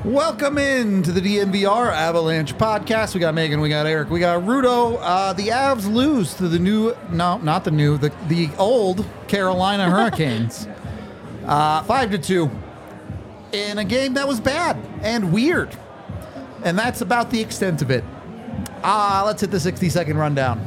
Welcome in to the DNVR Avalanche podcast. We got Megan, we got Eric, we got Rudo. The Avs lose to the old Carolina Hurricanes. 5-2 in a game that was bad and weird. And that's about the extent of it. Let's hit the 60-second rundown.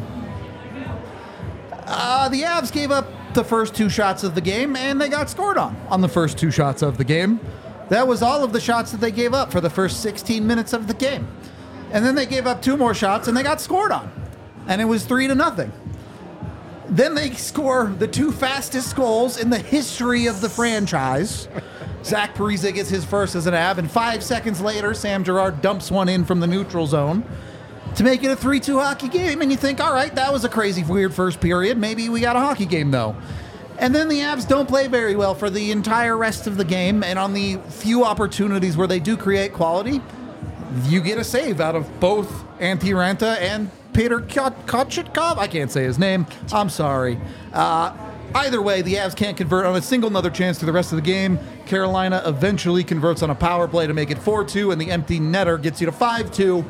The Avs gave up the first two shots of the game, and they got scored on the first two shots of the game. That was all of the shots that they gave up for the first 16 minutes of the game. And then they gave up two more shots, and they got scored on. And it was 3-0. Then they score the two fastest goals in the history of the franchise. Zach Parise gets his first as an Av, and 5 seconds later, Sam Girard dumps one in from the neutral zone to make it a 3-2 hockey game. And you think, all right, that was a crazy, weird first period. Maybe we got a hockey game, though. And then the Avs don't play very well for the entire rest of the game. And on the few opportunities where they do create quality, you get a save out of both Antti Ranta and Peter Kochetkov. I can't say his name. I'm sorry. Either way, the Avs can't convert on a single another chance through the rest of the game. Carolina eventually converts on a power play to make it 4-2, and the empty netter gets you to 5-2.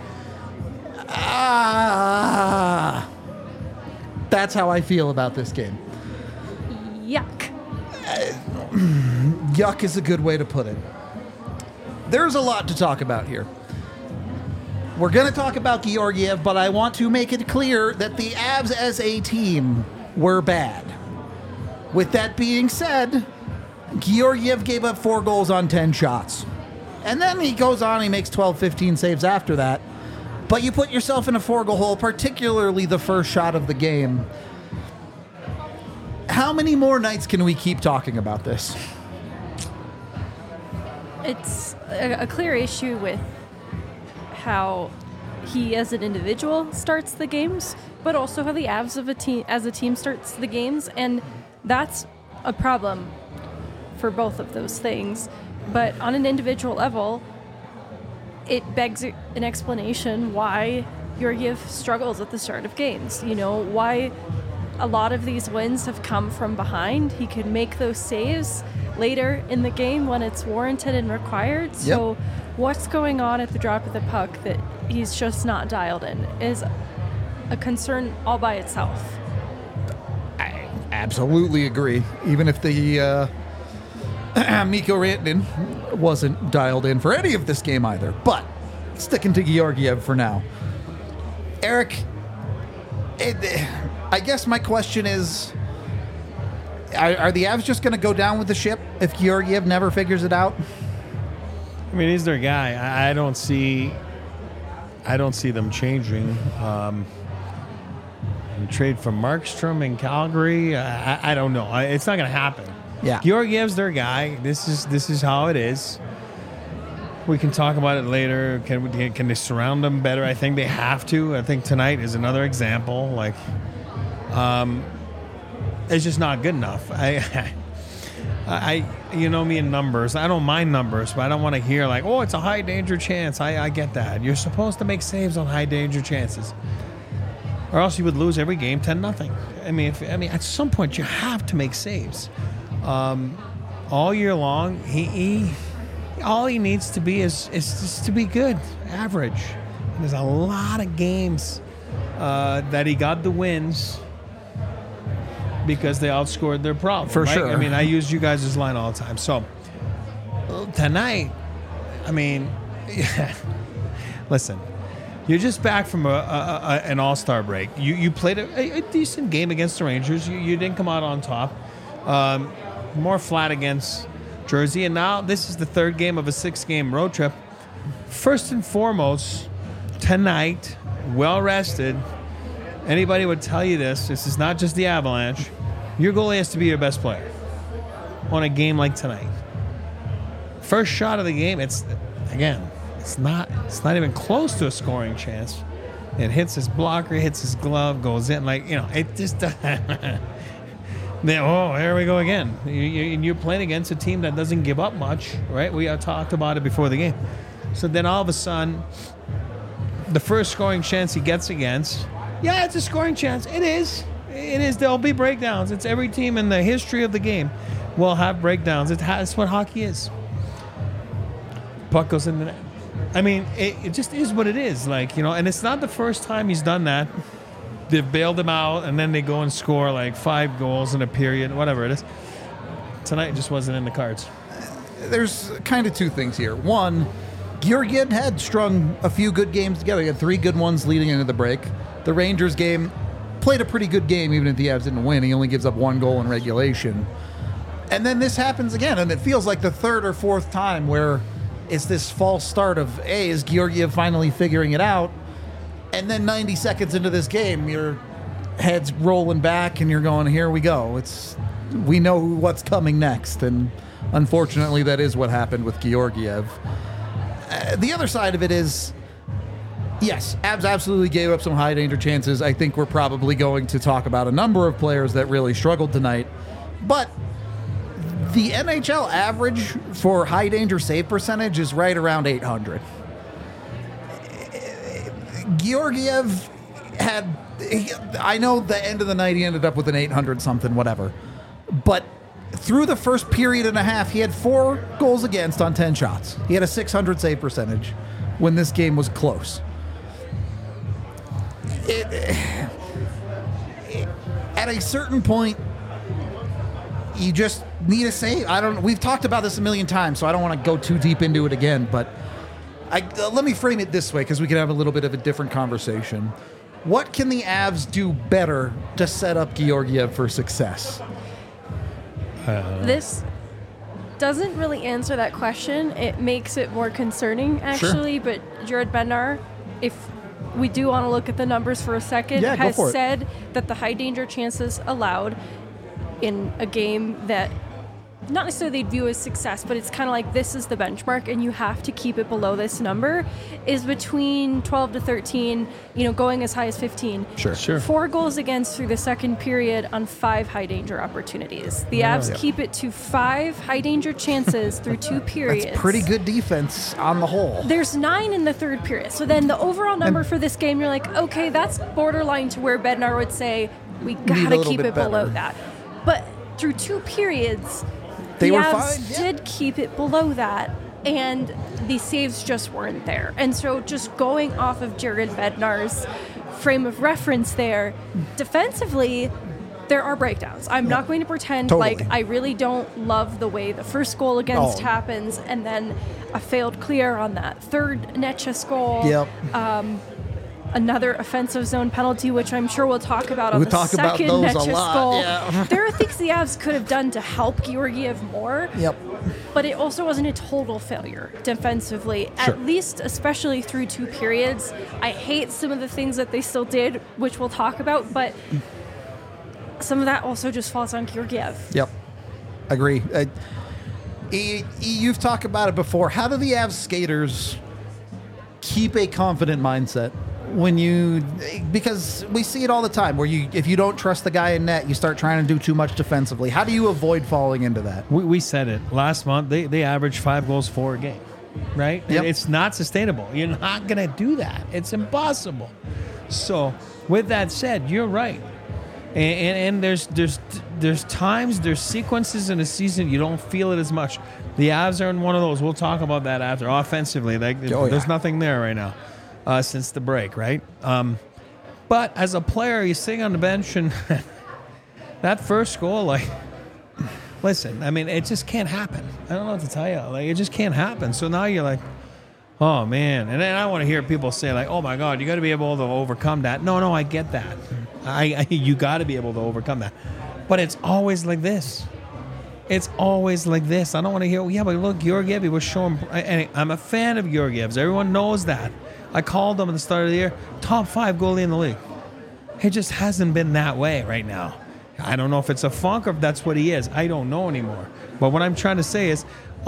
That's how I feel about this game. Yuck. Yuck is a good way to put it. There's a lot to talk about here. We're going to talk about Georgiev, but I want to make it clear that the Avs as a team were bad. With that being said, Georgiev gave up 4 goals on 10 shots. And then he goes on, he makes 12, 15 saves after that. But you put yourself in a 4-goal hole, particularly the first shot of the game. How many more nights can we keep talking about this? It's a clear issue with how he as an individual starts the games, but also how the Avs as a team starts the games, and that's a problem for both of those things. But on an individual level, it begs an explanation why Georgiev struggles at the start of games. You know, why a lot of these wins have come from behind. He can make those saves later in the game when it's warranted and required. So what's going on at the drop of the puck that he's just not dialed in is a concern all by itself. I absolutely agree. Even if the Mikko Rantanen wasn't dialed in for any of this game either. But sticking to Georgiev for now. Eric, I guess my question is, are the Avs just going to go down with the ship if Georgiev never figures it out? I mean, he's their guy. I don't see them changing. Trade for Markstrom in Calgary. I don't know. It's not going to happen. Yeah, Georgiev's their guy. This is how it is. We can talk about it later. Can they surround him better? I think they have to. I think tonight is another example. Like, it's just not good enough. I you know me in numbers. I don't mind numbers, but I don't want to hear like, oh, it's a high danger chance. I get that. You're supposed to make saves on high danger chances, or else you would lose every game 10-0. I mean, at some point you have to make saves. All year long, he all he needs to be is just to be good, average. And there's a lot of games that he got the wins because they outscored their problem. For right? sure. I mean, I use you guys' line all the time. So tonight, I mean, listen, you're just back from an all-star break. You played a decent game against the Rangers. You didn't come out on top. More flat against Jersey, and now this is the third game of a 6-game road trip. First and foremost, tonight, well rested. Anybody would tell you this is not just the Avalanche. Your goalie has to be your best player on a game like tonight. First shot of the game, it's not even close to a scoring chance. It hits his blocker, hits his glove, goes in. Like, you know, it just oh, here we go again. You're playing against a team that doesn't give up much, right? We talked about it before the game. So then all of a sudden, the first scoring chance he gets against, yeah, it's a scoring chance. It is. There'll be breakdowns. It's every team in the history of the game will have breakdowns. That's what hockey is. puck goes in the net. I mean, it just is what it is. Like, and it's not the first time he's done that. They've bailed him out, and then they go and score like 5 goals in a period, whatever it is. Tonight it just wasn't in the cards. There's kind of 2 things here. One, Georgiev had strung a few good games together. He had 3 good ones leading into the break. The Rangers game played a pretty good game, even if the Avs didn't win. He only gives up 1 goal in regulation. And then this happens again, and it feels like the 3rd or 4th time where it's this false start of, hey, is Georgiev finally figuring it out? And then 90 seconds into this game, your head's rolling back and you're going, here we go. We know what's coming next. And unfortunately, that is what happened with Georgiev. The other side of it is, yes, Avs absolutely gave up some high danger chances. I think we're probably going to talk about a number of players that really struggled tonight. But the NHL average for high danger save percentage is right around 800. Georgiev I know the end of the night he ended up with an 800 something, whatever. But through the first period and a half, he had 4 goals against on 10 shots. He had a 600 save percentage when this game was close. At a certain point, you just need a save. We've talked about this a million times, so I don't want to go too deep into it again, but let me frame it this way because we can have a little bit of a different conversation. What can the Avs do better to set up Georgiev for success? This doesn't really answer that question. It makes it more concerning, actually. Sure. But Jared Bednar, if we do want to look at the numbers for a second, has said that the high danger chances allowed in a game that not necessarily they'd view as success, but it's kind of like this is the benchmark and you have to keep it below this number, is between 12 to 13, going as high as 15. Sure. 4 goals against through the second period on 5 high danger opportunities. The Avs keep it to 5 high danger chances through 2 periods. That's pretty good defense on the whole. There's 9 in the third period. So then the overall number for this game, you're like, okay, that's borderline to where Bednar would say, we gotta keep it below that. But through 2 periods, the Avs did keep it below that, and the saves just weren't there. And so just going off of Jared Bednar's frame of reference there, defensively, there are breakdowns. I'm not going to pretend like I really don't love the way the first goal against happens, and then a failed clear on that third Necas goal. Yep. Another offensive zone penalty, which I'm sure we'll talk about on the second Necas goal. Yeah. There are things the Avs could have done to help Georgiev more. Yep. But it also wasn't a total failure defensively, at least especially through 2 periods. I hate some of the things that they still did, which we'll talk about, but some of that also just falls on Georgiev. Yep. Agree. You've talked about it before. How do the Avs skaters keep a confident mindset? Because we see it all the time where if you don't trust the guy in net, you start trying to do too much defensively. How do you avoid falling into that? We said it last month. They average 5 goals for a game, right? Yep. It's not sustainable. You're not going to do that. It's impossible. So with that said, you're right. And there's times, there's sequences in a season you don't feel it as much. The Avs are in one of those. We'll talk about that after. Offensively, there's nothing there right now. Since the break, right? But as a player, you're sitting on the bench, and that first goal, listen, I mean, it just can't happen. I don't know what to tell you. It just can't happen. So now you're like, oh, man. And then I want to hear people say, oh, my God, you got to be able to overcome that. No, I get that. You got to be able to overcome that. But it's always like this. It's always like this. I don't want to hear, but look, Georgiev, he was showing, and I'm a fan of Georgiev's. Everyone knows that. I called him at the start of the year, top 5 goalie in the league. It just hasn't been that way right now. I don't know if it's a funk or if that's what he is. I don't know anymore. But what I'm trying to say is,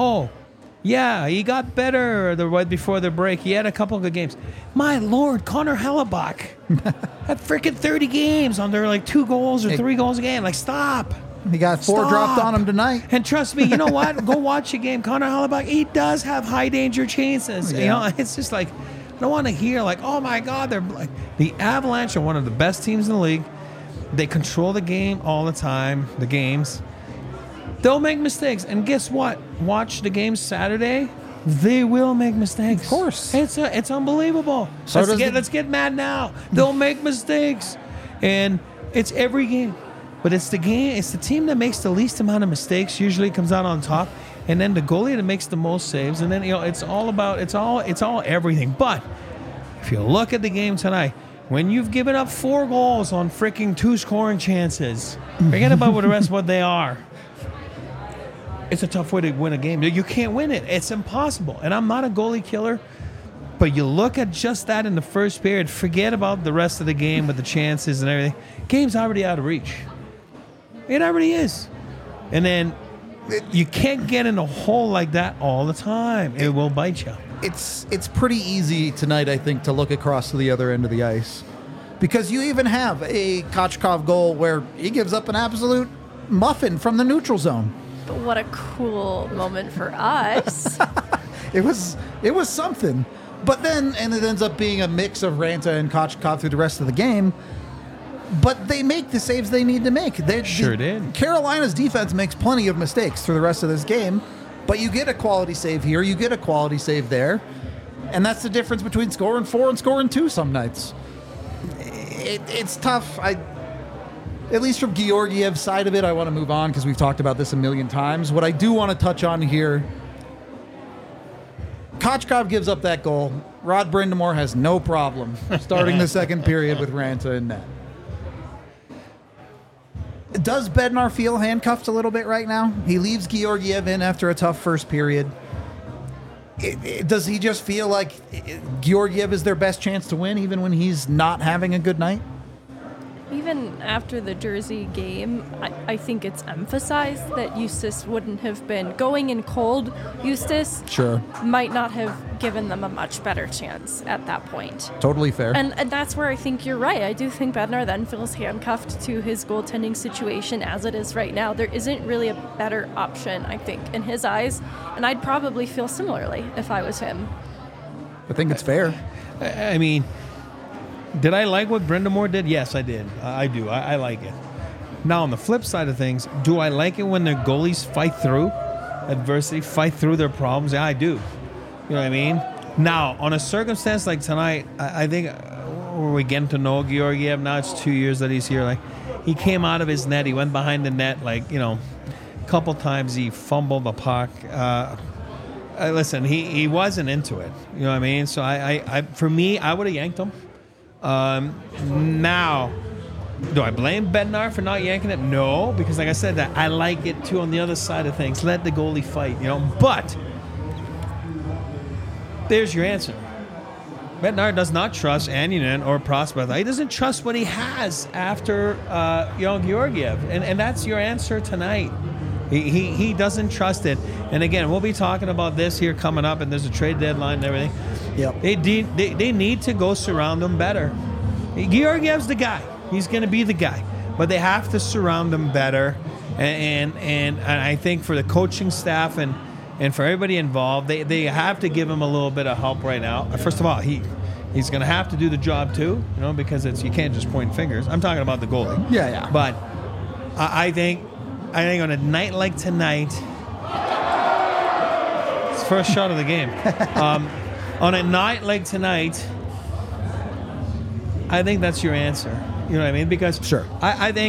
he got better right before the break. He had a couple of good games. My Lord, Connor Hellebuck had freaking 30 games under 2 goals or 3 goals a game. Stop. He got 4 dropped on him tonight. And trust me, you know what? Go watch a game. Connor Hellebuck, he does have high danger chances. Yeah. It's just I don't want to hear oh my God, they're the Avalanche are one of the best teams in the league. They control the game all the time, the games. They'll make mistakes. And guess what? Watch the game Saturday. They will make mistakes. Of course. It's unbelievable. So Let's get mad now. They'll make mistakes. And it's every game. But it's the team that makes the least amount of mistakes usually comes out on top. And then the goalie that makes the most saves. And then it's all everything. But if you look at the game tonight, when you've given up 4 goals on freaking 2 scoring chances, forget about what the rest of what they are. It's a tough way to win a game. You can't win it. It's impossible. And I'm not a goalie killer, but you look at just that in the first period, forget about the rest of the game with the chances and everything. Game's already out of reach. It already is. And then you can't get in a hole like that all the time. It will bite you. It's pretty easy tonight, I think, to look across to the other end of the ice. Because you even have a Kochkov goal where he gives up an absolute muffin from the neutral zone. But what a cool moment for us. It was something. But then, and it ends up being a mix of Ranta and Kochkov through the rest of the game. But they make the saves they need to make. They sure did. Carolina's defense makes plenty of mistakes through the rest of this game. But you get a quality save here, you get a quality save there. And that's the difference between scoring 4 and scoring 2 some nights. It's tough. At least from Georgiev's side of it, I want to move on because we've talked about this a million times. What I do want to touch on here, Kochkov gives up that goal. Rod Brind'Amour has no problem starting the second period with Ranta in net. Does Bednar feel handcuffed a little bit right now? He leaves Georgiev in after a tough first period. Does he just feel like Georgiev is their best chance to win even when he's not having a good night? Even after the Jersey game, I think it's emphasized that Eustace wouldn't have been going in cold. Eustace might not have given them a much better chance at that point. Totally fair. And that's where I think you're right. I do think Bednar then feels handcuffed to his goaltending situation as it is right now. There isn't really a better option, I think, in his eyes. And I'd probably feel similarly if I was him. I think it's fair. I mean, did I like what Brind'Amour did? Yes, I did. I do. I like it. Now, on the flip side of things, do I like it when their goalies fight through adversity, fight through their problems? Yeah, I do. You know what I mean? Now, on a circumstance like tonight, I think we're getting to know Georgiev. Now it's 2 years that he's here. Like, he came out of his net. He went behind the net, a couple times he fumbled the puck. Listen, he wasn't into it. You know what I mean? So for me, I would have yanked him. Now, do I blame Bednar for not yanking it? No, because like I said, that I like it too on the other side of things. Let the goalie fight, But there's your answer. Bednar does not trust Annunen or Prosper. He doesn't trust what he has after Georgiev, and that's your answer tonight. He doesn't trust it. And again, we'll be talking about this here coming up, and there's a trade deadline and everything. Yep. They need to go surround him better. Georgiev's the guy. He's going to be the guy. But they have to surround him better. And I think for the coaching staff and for everybody involved, they have to give him a little bit of help right now. First of all, he's going to have to do the job too, because you can't just point fingers. I'm talking about the goalie. Yeah. But I think on a night like tonight, it's the first shot of the game. On a night like tonight, I think that's your answer. You know what I mean? Because I think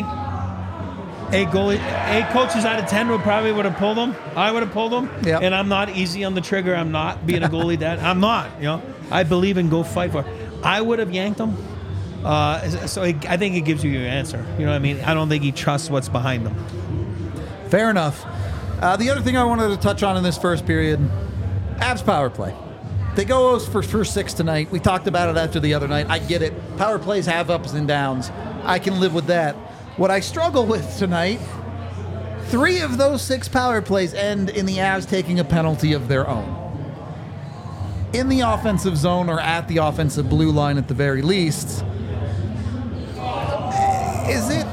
a coaches out of 10 would have pulled him. I would have pulled him. Yep. And I'm not easy on the trigger. I'm not being a goalie dad. I'm not. I believe in go fight for it. I would have yanked him. So I think it gives you your answer. You know what I mean? I don't think he trusts what's behind them. Fair enough. The other thing I wanted to touch on in this first period, Avs power play. They go for first 6 tonight. We talked about it after the other night. I get it. Power plays have ups and downs. I can live with that. What I struggle with tonight, 3 of those 6 power plays end in the Avs taking a penalty of their own. In the offensive zone or at the offensive blue line at the very least. Is it...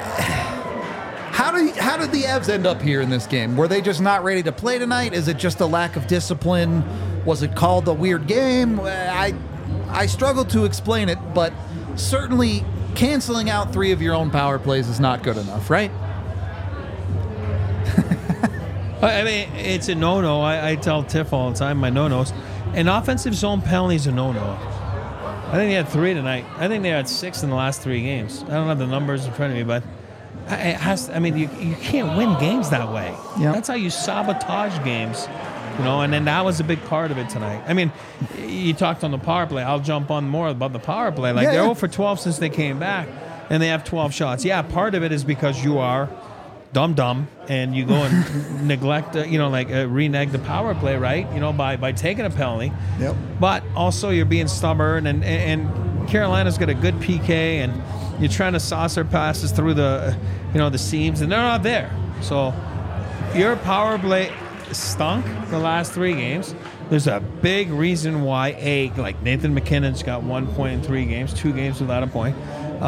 How did the Avs end up here in this game? Were they just not ready to play tonight? Is it just a lack of discipline? Was it called a weird game? I struggle to explain it, but certainly canceling out 3 of your own power plays is not good enough, right? I mean, it's a no-no. I tell Tiff all the time, my no-nos. An offensive zone penalty is a no-no. I think they had 3 tonight. I think they had 6 in the last 3 games. I don't have the numbers in front of me, but it has. I mean, you can't win games that way. Yeah. That's how you sabotage games. And then that was a big part of it tonight. I mean, you talked on the power play. I'll jump on more about the power play. Like, they're 0 for 12 since they came back, and they have 12 shots. Yeah, part of it is because you are dumb, and you go and neglect, renege the power play, right? By taking a penalty. Yep. But also you're being stubborn, and Carolina's got a good PK, and you're trying to saucer passes through the seams, and they're not there. So your power play stunk the last 3 games. There's a big reason why like Nathan McKinnon's got 1 point in 3 games, 2 games without a point.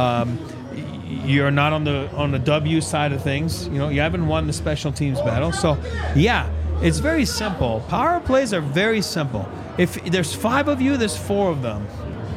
You're not on the W side of things. You haven't won the special teams battle. So yeah, it's very simple. Power plays are very simple. If there's 5 of you, there's 4 of them.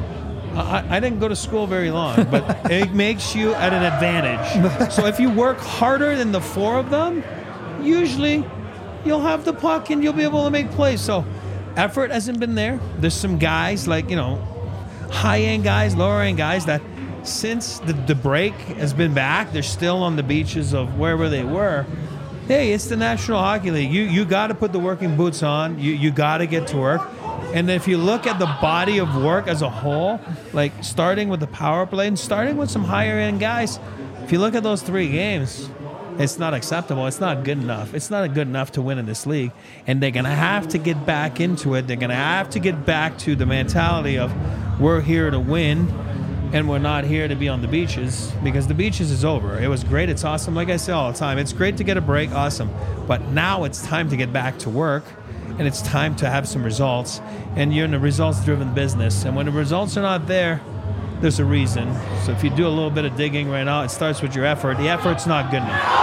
I didn't go to school very long, but it makes you at an advantage. So if you work harder than the 4 of them, usually you'll have the puck and you'll be able to make plays. So effort hasn't been there. There's some guys like, high-end guys, lower-end guys that since the break has been back, they're still on the beaches of wherever they were. Hey, it's the National Hockey League. You got to put the working boots on. You got to get to work. And if you look at the body of work as a whole, like starting with the power play and starting with some higher-end guys, if you look at those 3 games, it's not acceptable. It's not good enough. It's not good enough to win in this league. And they're going to have to get back into it. They're going to have to get back to the mentality of we're here to win and we're not here to be on the beaches, because the beaches is over. It was great. It's awesome. Like I say all the time, it's great to get a break. Awesome. But now it's time to get back to work, and it's time to have some results. And you're in a results-driven business. And when the results are not there, there's a reason. So if you do a little bit of digging right now, it starts with your effort. The effort's not good enough.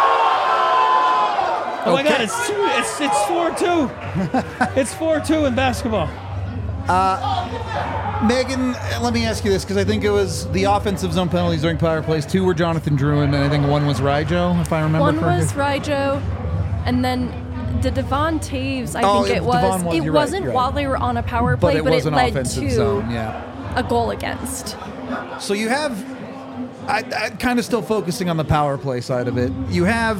Oh my God, it's 4-2. It's 4-2 in basketball. Megan, let me ask you this, because I think it was the offensive zone penalties during power plays. 2 were Jonathan Drouin, and I think 1 was Rijo, if I remember correctly. 1 was Rijo, and then the Devon Taves, I think it was. It wasn't while they were on a power play, but it led to a goal against. So you have, I kind of still focusing on the power play side of it. You have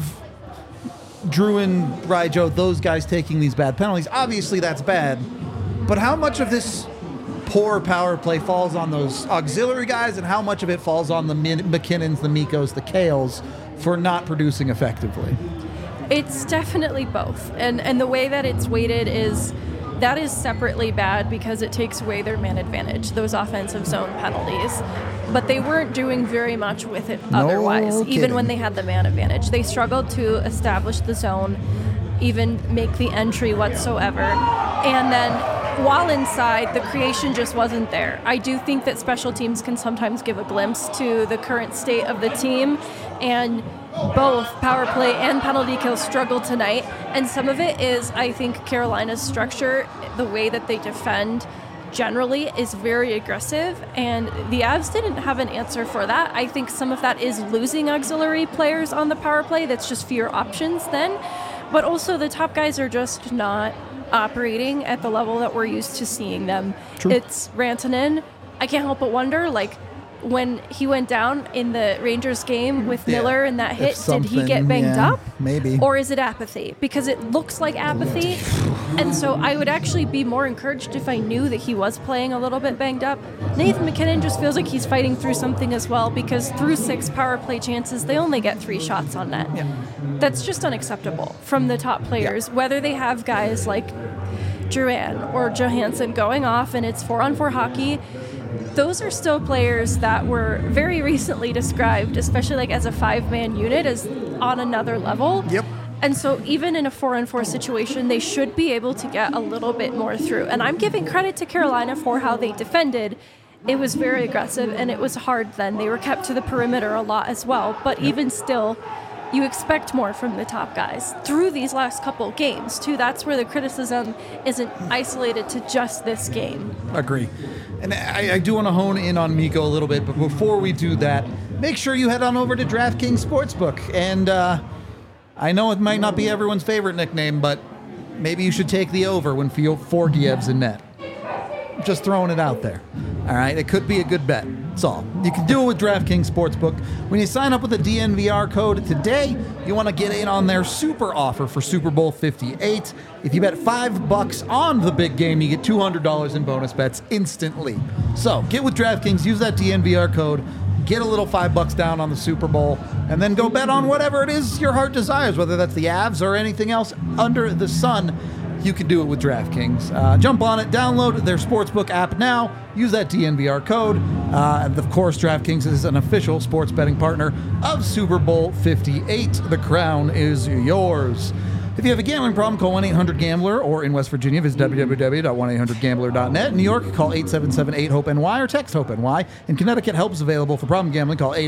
Drouin, Rijo, those guys taking these bad penalties. Obviously, that's bad. But how much of this poor power play falls on those auxiliary guys, and how much of it falls on the McKinnons, the Mikos, the Kales for not producing effectively? It's definitely both. And the way that it's weighted is that is separately bad because it takes away their man advantage, those offensive zone penalties. But they weren't doing very much with it otherwise, even when they had the man advantage. They struggled to establish the zone, even make the entry whatsoever. And then while inside, the creation just wasn't there. I do think that special teams can sometimes give a glimpse to the current state of the team, and both power play and penalty kill struggled tonight. And some of it is, I think, Carolina's structure, the way that they defend generally is very aggressive, and the Avs didn't have an answer for that. I think some of that is losing auxiliary players on the power play. That's just fewer options then. But also the top guys are just not operating at the level that we're used to seeing them. True. It's Rantanen. I can't help but wonder, when he went down in the Rangers game with Miller and that hit, did he get banged up? Maybe. Or is it apathy? Because it looks like apathy. And so I would actually be more encouraged if I knew that he was playing a little bit banged up. Nathan McKinnon just feels like he's fighting through something as well, because through 6 power play chances, they only get 3 shots on net. Yeah. That's just unacceptable from the top players, whether they have guys like Drouin or Johansson going off and it's 4-on-4 hockey. Those are still players that were very recently described, especially as a 5-man unit, as on another level. Yep. And so even in a 4-on-4 situation, they should be able to get a little bit more through. And I'm giving credit to Carolina for how they defended. It was very aggressive, and it was hard then. They were kept to the perimeter a lot as well. But even still, you expect more from the top guys through these last couple games, too. That's where the criticism isn't isolated to just this game. Agree. And I do want to hone in on Mikko a little bit, but before we do that, make sure you head on over to DraftKings Sportsbook. And I know it might not be everyone's favorite nickname, but maybe you should take the over when Forgiev's in net. Just throwing it out there. All right, it could be a good bet. That's all. You can do it with DraftKings Sportsbook. When you sign up with the DNVR code today, you want to get in on their super offer for Super Bowl 58. If you bet $5 on the big game, you get $200 in bonus bets instantly. So get with DraftKings, use that DNVR code, get a little $5 down on the Super Bowl, and then go bet on whatever it is your heart desires, whether that's the Avs or anything else under the sun. You can do it with DraftKings. Jump on it, download their sportsbook app now, use that DNVR code. And of course, DraftKings is an official sports betting partner of Super Bowl 58. The crown is yours. If you have a gambling problem, call 1-800-GAMBLER, or in West Virginia, visit www.1800gambler.net. In New York, call 877-8-HOPE-NY or text HOPE-NY. In Connecticut, help is available for problem gambling. Call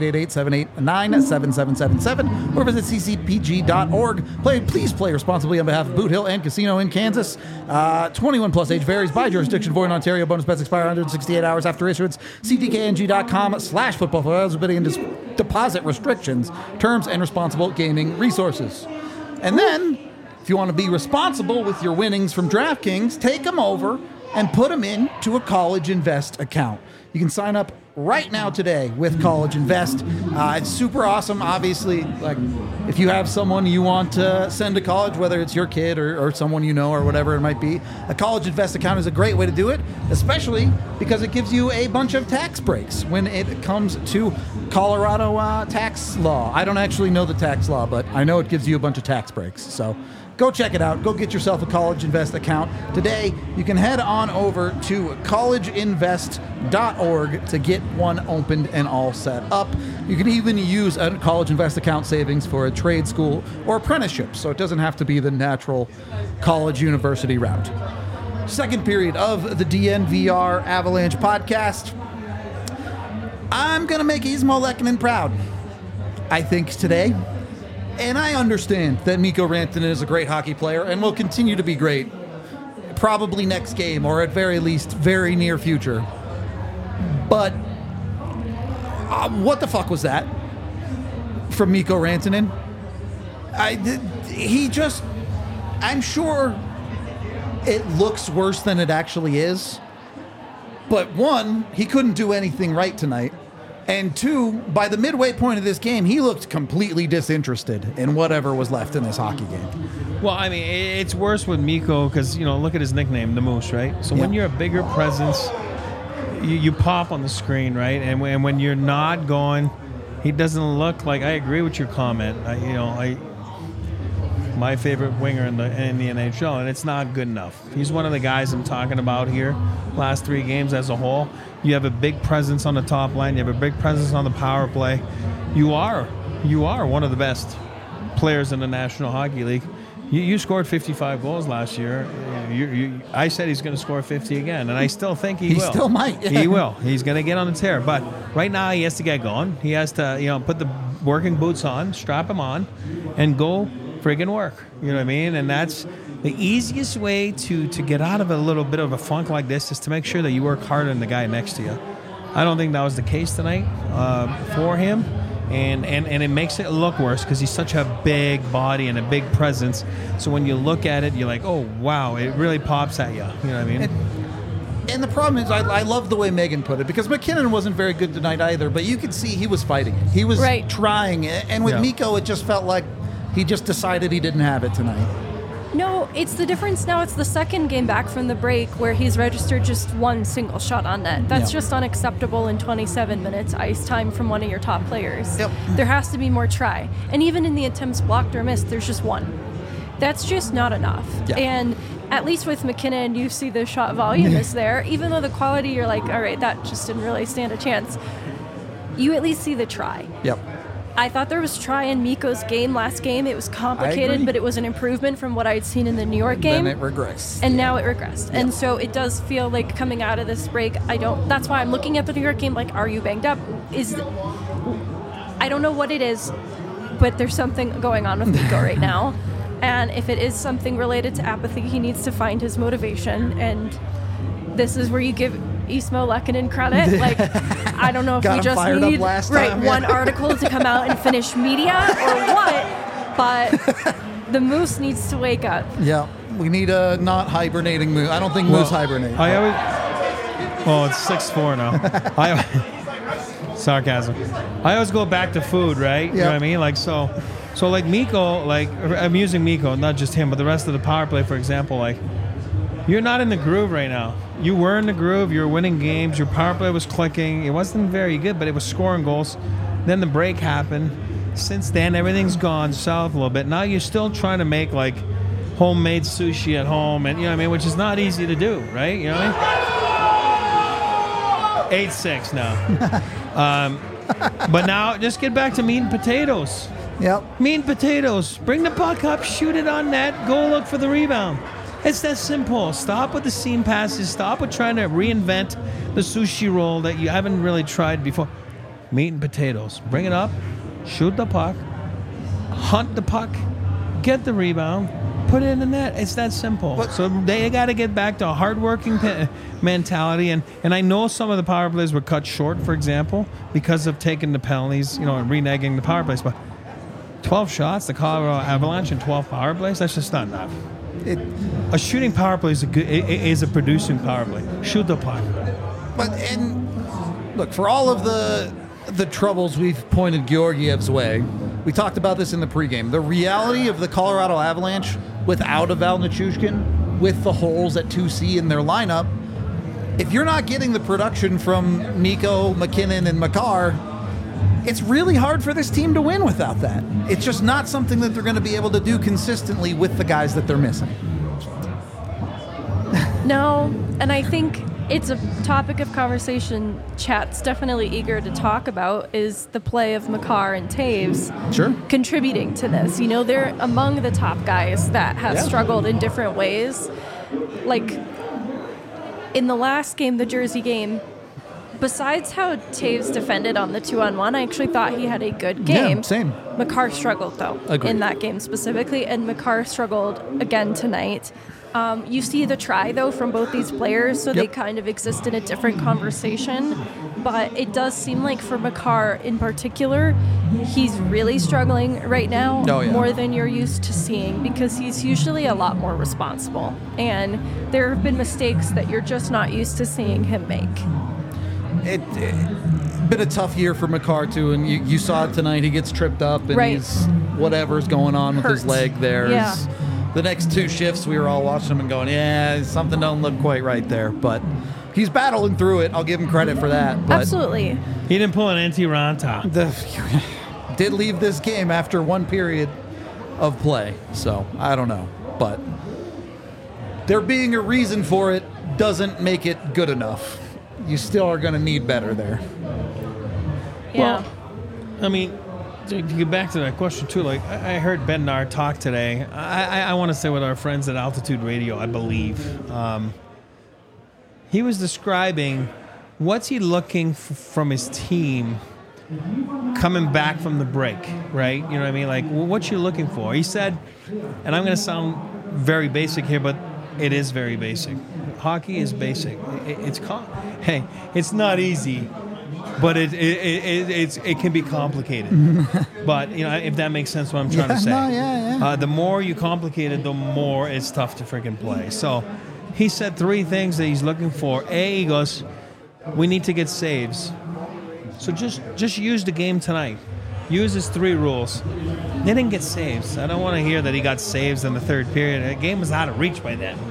888-789-7777 or visit ccpg.org. Please play responsibly on behalf of Boot Hill and Casino in Kansas. 21 plus age varies by jurisdiction. Void in Ontario. Bonus bets expire 168 hours after issuance. cdkng.com/football for eligibility and deposit restrictions, terms, and responsible gaming resources. And then, if you want to be responsible with your winnings from DraftKings, take them over and put them into a College Invest account. You can sign up right now today with College Invest. It's super awesome. Obviously, like if you have someone you want to send to college, whether it's your kid or someone you know or whatever it might be, a College Invest account is a great way to do it, especially because it gives you a bunch of tax breaks when it comes to Colorado tax law. I don't actually know the tax law, but I know it gives you a bunch of tax breaks. So go check it out. Go get yourself a College Invest account today. You can head on over to collegeinvest.org to get one opened and all set up. You can even use a College Invest account savings for a trade school or apprenticeship, so it doesn't have to be the natural college university route. Second period of the DNVR Avalanche podcast. I'm going to make Ismo Lehkonen proud, I think, today. And I understand that Mikko Rantanen is a great hockey player and will continue to be great, probably next game or at very least very near future. But what the fuck was that from Mikko Rantanen? I'm sure it looks worse than it actually is. But one, he couldn't do anything right tonight. And two, by the midway point of this game, he looked completely disinterested in whatever was left in this hockey game. Well, I mean, it's worse with Mikko because, look at his nickname, the Moose, right? So when you're a bigger presence, you pop on the screen, right? And when you're not going, he doesn't look like. I agree with your comment. My favorite winger in the NHL, and it's not good enough. He's one of the guys I'm talking about here. Last 3 games as a whole, you have a big presence on the top line. You have a big presence on the power play. You are one of the best players in the National Hockey League. You scored 55 goals last year. I said he's going to score 50 again, and I still think he will. He still might. Yeah. He will. He's going to get on the tear. But right now he has to get going. He has to, put the working boots on, strap him on, and go friggin' work. You know what I mean? And that's the easiest way to get out of a little bit of a funk like this is to make sure that you work harder than the guy next to you. I don't think that was the case tonight for him. And it makes it look worse because he's such a big body and a big presence. So when you look at it, you're like, oh, wow, it really pops at you. You know what I mean? And the problem is, I love the way Megan put it, because McKinnon wasn't very good tonight either, but you could see he was fighting it. He was trying it. And with Mikko, it just felt like he just decided he didn't have it tonight. No, it's the difference now. It's the second game back from the break where he's registered just one single shot on net. That's just unacceptable in 27 minutes ice time from one of your top players. Yep. There has to be more try. And even in the attempts blocked or missed, there's just one. That's just not enough. Yeah. And at least with McKinnon, you see the shot volume is there. Even though the quality, you're like, all right, that just didn't really stand a chance. You at least see the try. Yep. I thought there was try in Mikko's game last game. It was complicated, but it was an improvement from what I'd seen in the New York game. Then it regressed. And now it regressed. And so it does feel like coming out of this break, that's why I'm looking at the New York game like, are you banged up? I don't know what it is, but there's something going on with Mikko right now. And if it is something related to apathy, he needs to find his motivation. And this is where you give Ismo Lehkonen credit. Like, I don't know if we just need one article to come out and finish media or what, but the Moose needs to wake up. Yeah, we need a not hibernating Moose. I don't think Moose hibernate. It's 6-4 now. Sarcasm. I always go back to food, right? You know what I mean? Like so like Mikko, like I'm using Mikko, not just him, but the rest of the power play, for example, like you're not in the groove right now. You were in the groove, you were winning games, your power play was clicking. It wasn't very good, but it was scoring goals. Then the break happened. Since then, everything's gone south a little bit. Now you're still trying to make like homemade sushi at home, and you know what I mean, which is not easy to do, right? You know what I mean? 8-6 now. But now just get back to meat and potatoes. Yep. Meat and potatoes. Bring the puck up, shoot it on net, go look for the rebound. It's that simple. Stop with the seam passes. Stop with trying to reinvent the sushi roll that you haven't really tried before. Meat and potatoes. Bring it up, shoot the puck, hunt the puck, get the rebound, put it in the net. It's that simple. So they got to get back to a hardworking mentality. And I know some of the power plays were cut short, for example, because of taking the penalties, and reneging the power plays. But 12 shots, the Colorado Avalanche, and 12 power plays, that's just not enough. A shooting power play is a producing power play. Shoot the puck. And look, for all of the troubles we've pointed Georgiev's way, we talked about this in the pregame. The reality of the Colorado Avalanche without a Val Nichushkin, with the holes at 2C in their lineup, if you're not getting the production from Mikko, McKinnon, and Makar, it's really hard for this team to win without that. It's just not something that they're going to be able to do consistently with the guys that they're missing. No, and I think it's a topic of conversation Chat's definitely eager to talk about is the play of Makar and Taves contributing to this. They're among the top guys that have struggled in different ways. Like in the last game, the Jersey game, besides how Taves defended on the 2-on-1, I actually thought he had a good game. Yeah, same. Makar struggled, though, in that game specifically, and Makar struggled again tonight. You see the try, though, from both these players, so they kind of exist in a different conversation. But it does seem like for Makar in particular, he's really struggling right now more than you're used to seeing because he's usually a lot more responsible. And there have been mistakes that you're just not used to seeing him make. It's been a tough year for Makar, too, and you saw it tonight. He gets tripped up, and he's whatever's going on with his leg there. Yeah. The next two shifts, we were all watching him and going, something don't look quite right there. But he's battling through it. I'll give him credit for that. But absolutely. He didn't pull an anti-Ranta. Did leave this game after one period of play. So, I don't know. But there being a reason for it doesn't make it good enough. You still are going to need better there. Yeah. Well, I mean, to get back to that question too, like I heard Ben Nahr talk today. I want to say with our friends at Altitude Radio, I believe. He was describing what's he looking from his team coming back from the break, right? You know what I mean? Like, what you looking for? He said, and I'm going to sound very basic here, but it is very basic. Hockey is basic. It's not easy. But it can be complicated. But if that makes sense, what I'm trying to say. The more you complicate it, the more it's tough to freaking play. So he said 3 things that he's looking for. He goes, we need to get saves. So just use the game tonight. Use his 3 rules. They didn't get saves. I don't want to hear that he got saves in the third period. The game was out of reach by then.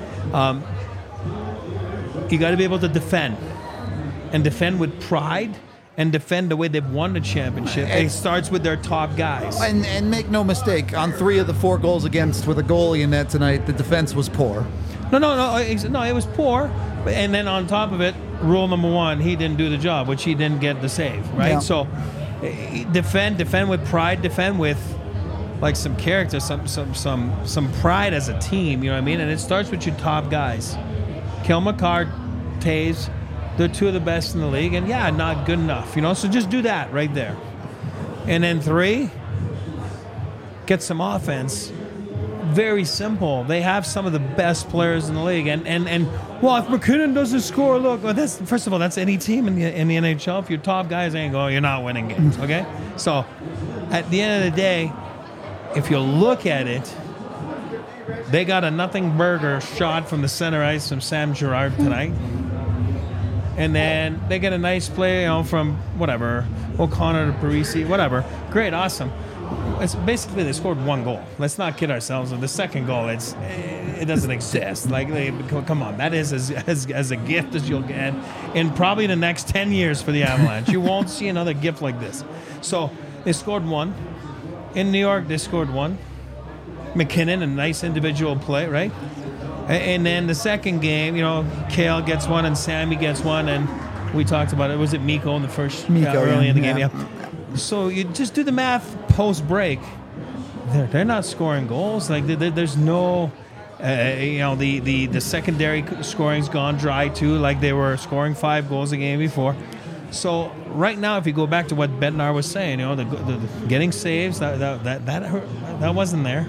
You got to be able to defend. And defend with pride, and defend the way they've won the championship. It starts with their top guys. And make no mistake, on 3 of the 4 goals against with a goalie in net tonight, the defense was poor. No, it was poor. And then on top of it, rule number 1, he didn't do the job, which he didn't get the save, right? Yeah. So defend with pride, defend with like some character, some pride as a team, you know what I mean? And it starts with your top guys. Cale Makar, Taves, they're 2 of the best in the league, and not good enough, so just do that right there. And then 3, get some offense. Very simple. They have some of the best players in the league, and well, if McKinnon doesn't score, look, that's first of all, that's any team in the NHL. If your top guys ain't going, you're not winning games, okay? So at the end of the day, if you look at it, they got a nothing burger shot from the center ice from Sam Girard tonight. And then they get a nice play, from whatever, O'Connor to Parisi, whatever. Great, awesome. It's basically they scored one goal. Let's not kid ourselves. The second goal, it doesn't exist. Like, come on, that is as a gift as you'll get in probably the next 10 years for the Avalanche. You won't see another gift like this. So they scored one. In New York, they scored one. McKinnon, a nice individual play, right? And then the second game, Kale gets one and Sammy gets one, and we talked about it. Was it Mikko in the first early in the game? Yeah. So you just do the math post break. They're not scoring goals. Like there's no, the secondary scoring's gone dry too. Like they were scoring 5 goals a game before. So right now, if you go back to what Bednar was saying, the getting saves that wasn't there.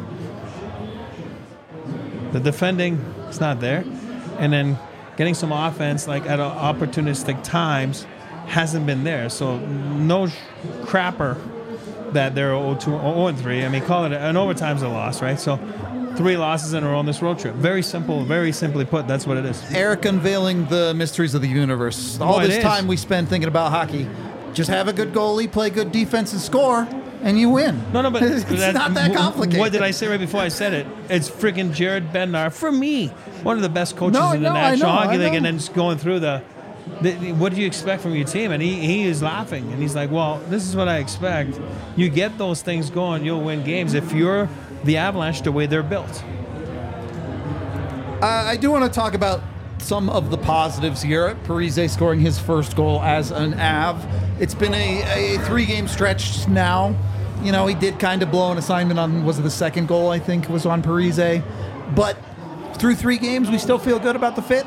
The defending is not there, and then getting some offense like at opportunistic times hasn't been there. So no crapper that they're 0-3. I mean, call it an overtime's a loss, right? So 3 losses in a row on this road trip. Very simple, very simply put, that's what it is. Eric unveiling the mysteries of the universe. All this time we spend thinking about hockey. Just have a good goalie, play good defense, and score, and you win. No, but it's not that complicated. What did I say right before I said it? It's freaking Jared Bednar, for me, one of the best coaches in the National Hockey League, and then just going through the what do you expect from your team? And he is laughing, and he's like, well, this is what I expect. You get those things going, you'll win games if you're the Avalanche the way they're built. I do want to talk about some of the positives here. Parise scoring his first goal as an Av. It's been a 3-game stretch now. He did kind of blow an assignment on, was it the second goal, I think, was on Parise. But through 3 games, we still feel good about the fit?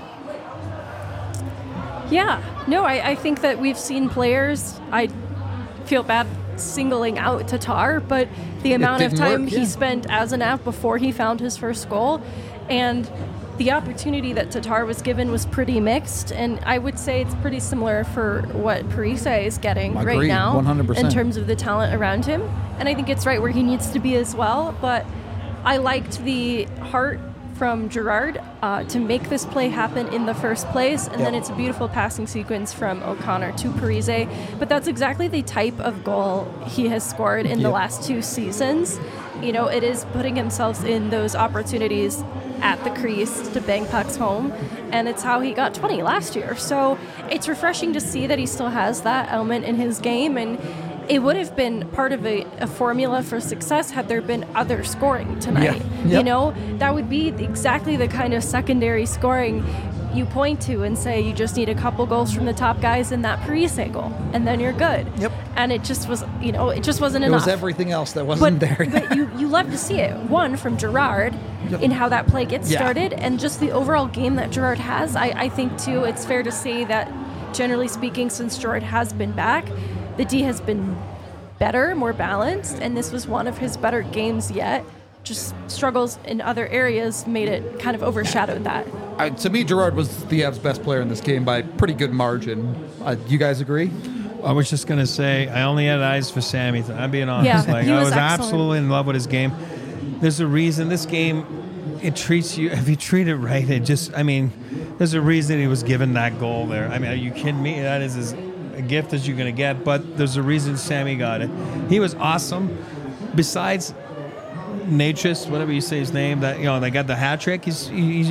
Yeah. No, I think that we've seen players, I feel bad singling out Tatar, but the amount of time he spent as an Av before he found his first goal, and the opportunity that Tatar was given was pretty mixed, and I would say it's pretty similar for what Parise is getting right now 100%. In terms of the talent around him, and I think it's right where he needs to be as well. But I liked the heart from Girard to make this play happen in the first place, and then it's a beautiful passing sequence from O'Connor to Parise. But that's exactly the type of goal he has scored in the last 2 seasons. It is putting himself in those opportunities at the crease to bang pucks home, and it's how he got 20 last year. So it's refreshing to see that he still has that element in his game, and it would have been part of a formula for success had there been other scoring tonight. That would be exactly the kind of secondary scoring you point to and say you just need a couple goals from the top guys in that Parise goal, and then you're good. Yep. And it just was, it just wasn't enough. It was everything else that wasn't there. But you love to see it. One, from Girard, in how that play gets started, and just the overall game that Girard has. I think, too, it's fair to say that, generally speaking, since Girard has been back, the D has been better, more balanced, and this was one of his better games yet. Just struggles in other areas made it kind of overshadowed that. To me, Girard was the Avs' best player in this game by pretty good margin. You guys agree? I was just going to say, I only had eyes for Sammy. I'm being honest. Yeah, I was absolutely in love with his game. There's a reason this game, it treats you, if you treat it right, there's a reason he was given that goal there. Are you kidding me? That is as a gift as you're going to get, but there's a reason Sammy got it. He was awesome. Besides Natchez, whatever you say his name, that they got the hat trick. He's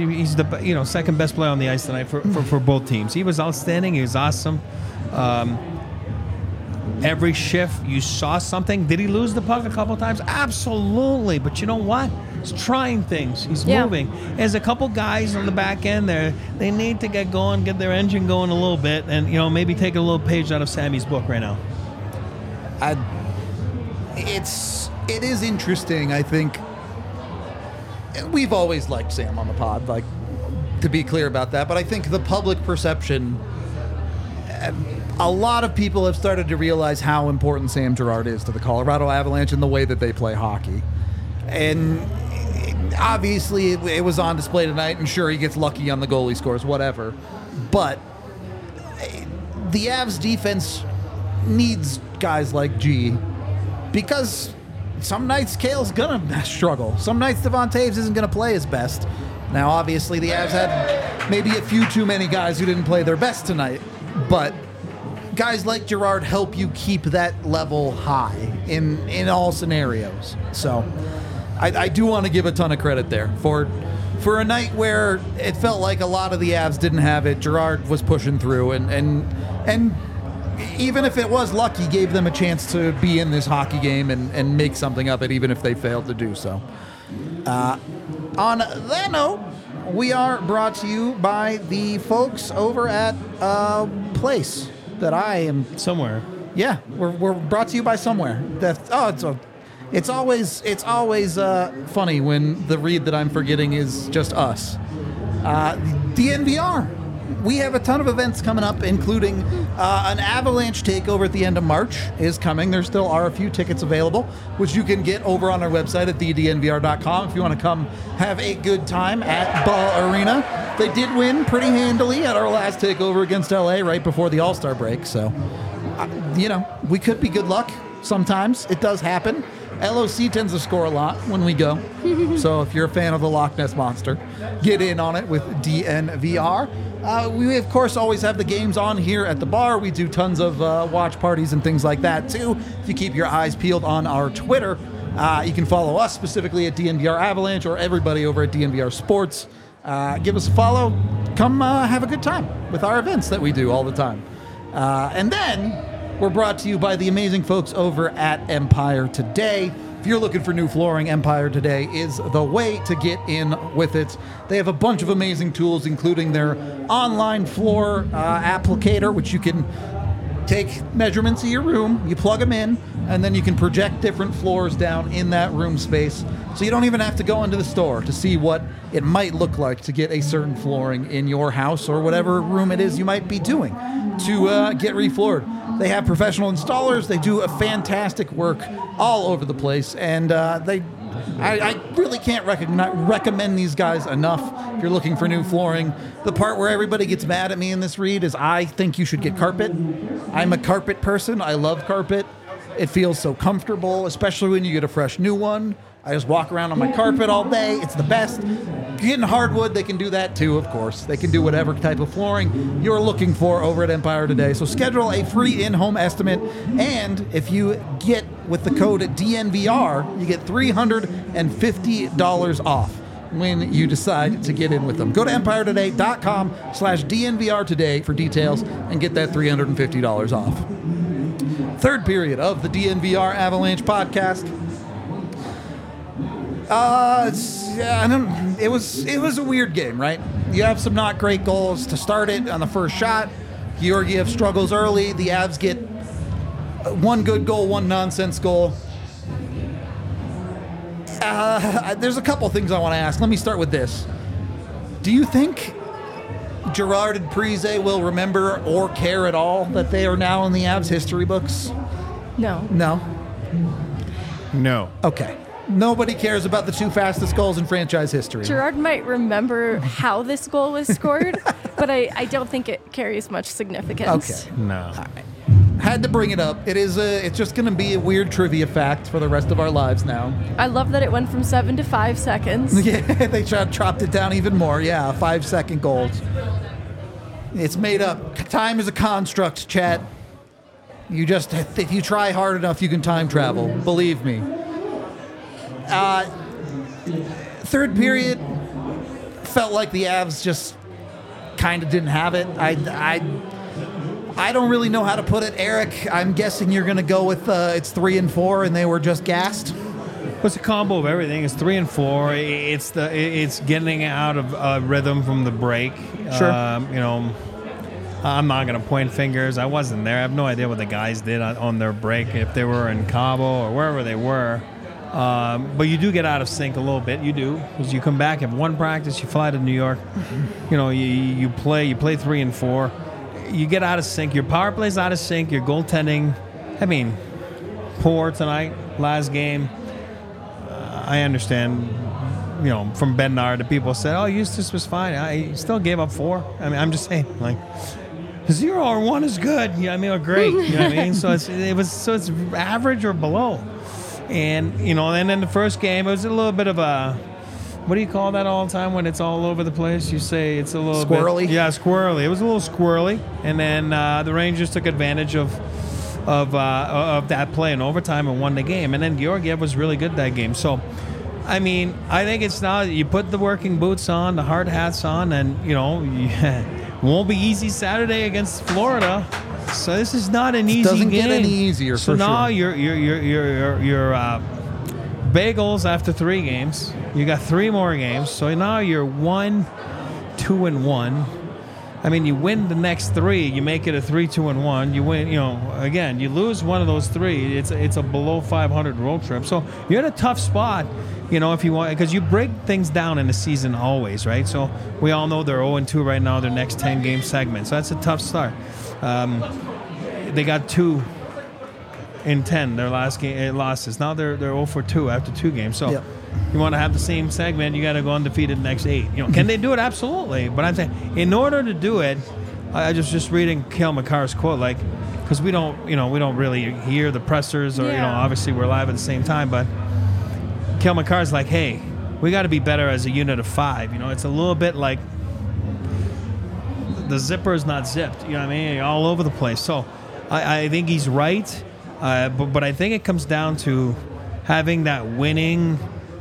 the second best player on the ice tonight for both teams. He was outstanding. He was awesome. Every shift you saw something. Did he lose the puck a couple times? Absolutely. But you know what? He's trying things. He's moving. There's a couple guys on the back end there. They need to get going, get their engine going a little bit, and maybe take a little page out of Sammy's book right now. It is interesting, I think. We've always liked Sam on the pod, to be clear about that, but I think the public perception, a lot of people have started to realize how important Sam Girard is to the Colorado Avalanche and the way that they play hockey. And obviously it was on display tonight, and sure, he gets lucky on the goal, he scores, whatever. But the Avs defense needs guys like G, because some nights Kale's gonna struggle. Some nights Devon Taves isn't gonna play his best. Now, obviously, the Avs had maybe a few too many guys who didn't play their best tonight, but guys like Girard help you keep that level high in all scenarios. So I do want to give a ton of credit there for a night where it felt like a lot of the Avs didn't have it. Girard was pushing through, and even if it was luck, he gave them a chance to be in this hockey game and make something of it, even if they failed to do so. On that note, we are brought to you by the folks over at a place that I am. Somewhere. Yeah, we're brought to you by somewhere. It's always funny when the read that I'm forgetting is just us. DNVR. We have a ton of events coming up, including an Avalanche takeover at the end of March is coming. There still are a few tickets available, which you can get over on our website at thednvr.com if you want to come have a good time at Ball Arena. They did win pretty handily at our last takeover against LA right before the All-Star break, so, we could be good luck sometimes. It does happen. LOC tends to score a lot when we go. So if you're a fan of the Loch Ness Monster, get in on it with DNVR. We, of course, always have the games on here at the bar. We do tons of watch parties and things like that, too. If you keep your eyes peeled on our Twitter, you can follow us specifically at DNVR Avalanche or everybody over at DNVR Sports. Give us a follow. Come have a good time with our events that we do all the time. And then we're brought to you by the amazing folks over at Empire Today. If you're looking for new flooring, Empire Today is the way to get in with it. They have a bunch of amazing tools, including their online floor applicator, which you can take measurements of your room, you plug them in, and then you can project different floors down in that room space. So you don't even have to go into the store to see what it might look like to get a certain flooring in your house or whatever room it is you might be doing to get refloored. They have professional installers. They do a fantastic work all over the place, and I really can't recommend these guys enough if you're looking for new flooring. The part where everybody gets mad at me in this read is I think you should get carpet. I'm a carpet person. I love carpet. It feels so comfortable, especially when you get a fresh new one. I just walk around on my carpet all day. It's the best. Getting hardwood, they can do that too, of course. They can do whatever type of flooring you're looking for over at Empire Today. So schedule a free in-home estimate, and if you get with the code DNVR, you get $350 off when you decide to get in with them. Go to EmpireToday.com/DNVR today for details and get that $350 off. Third period of the DNVR Avalanche podcast. It was a weird game, right? You have some not great goals to start it on the first shot. Georgiev struggles early. The Avs get one good goal, one nonsense goal. There's a couple things I want to ask. Let me start with this. Do you think Girard and Parise will remember or care at all that they are now in the Avs history books? No. No? No. Okay. Nobody cares about the two fastest goals in franchise history. Girard might remember how this goal was scored, but I don't think it carries much significance. Okay. No. All right. Had to bring it up. It's just going to be a weird trivia fact for the rest of our lives now. I love that it went from 7 to 5 seconds. Yeah, they chopped it down even more. Yeah, 5-second goals. It's made up. Time is a construct, chat. If you try hard enough, you can time travel. Believe me. Third period felt like the Avs just kind of didn't have it. I don't really know how to put it. Eric, I'm guessing you're going to go with it's 3 and 4 and they were just gassed. It's a combo of everything. It's 3 and 4. It's getting out of rhythm from the break. Sure. I'm not going to point fingers. I wasn't there. I have no idea what the guys did on their break, if they were in Cabo or wherever they were. But you do get out of sync a little bit. You do, because you come back, have one practice, you fly to New York. You play 3 and 4. You get out of sync. Your power play's out of sync. Your goaltending, poor tonight, last game. I understand. From Bednar, the people said, "Oh, Eustace was fine." I still gave up 4. I'm just saying, 0 or 1 is good. Or great. So it's average or below. And, and then the first game, it was a little bit of a, what do you call that all the time when it's all over the place? You say it's a little squirrely? Yeah, squirrely. It was a little squirrely. And then the Rangers took advantage of that play in overtime and won the game. And then Georgiev was really good that game. So, I mean, I think it's now you put the working boots on, the hard hats on, and, it won't be easy Saturday against Florida. So this is not an easy Doesn't game. get any easier. So for now sure. your bagels after 3 games. You got 3 more games. So now you're 1-2-1. I mean, you win the next 3, you make it a 3-2-1. You win, again, you lose one of those 3. It's a below 500 road trip. So you're in a tough spot, if you want, because you break things down in the season always, right? So we all know they're 0-2 right now, their next 10 game segment. So that's a tough start. They got 2 in 10 their last game losses. Now they're 0-2 after 2 games. So Yep. you want to have the same segment, you got to go undefeated the next 8. Can they do it? Absolutely. But I'm saying in order to do it, I just reading Cale Makar's quote, because we don't really hear the pressers or obviously we're live at the same time, but Cale Makar's like, hey, we got to be better as a unit of 5. It's a little bit like the zipper is not zipped. You know what I mean? You're all over the place. So I think he's right. But I think it comes down to having that winning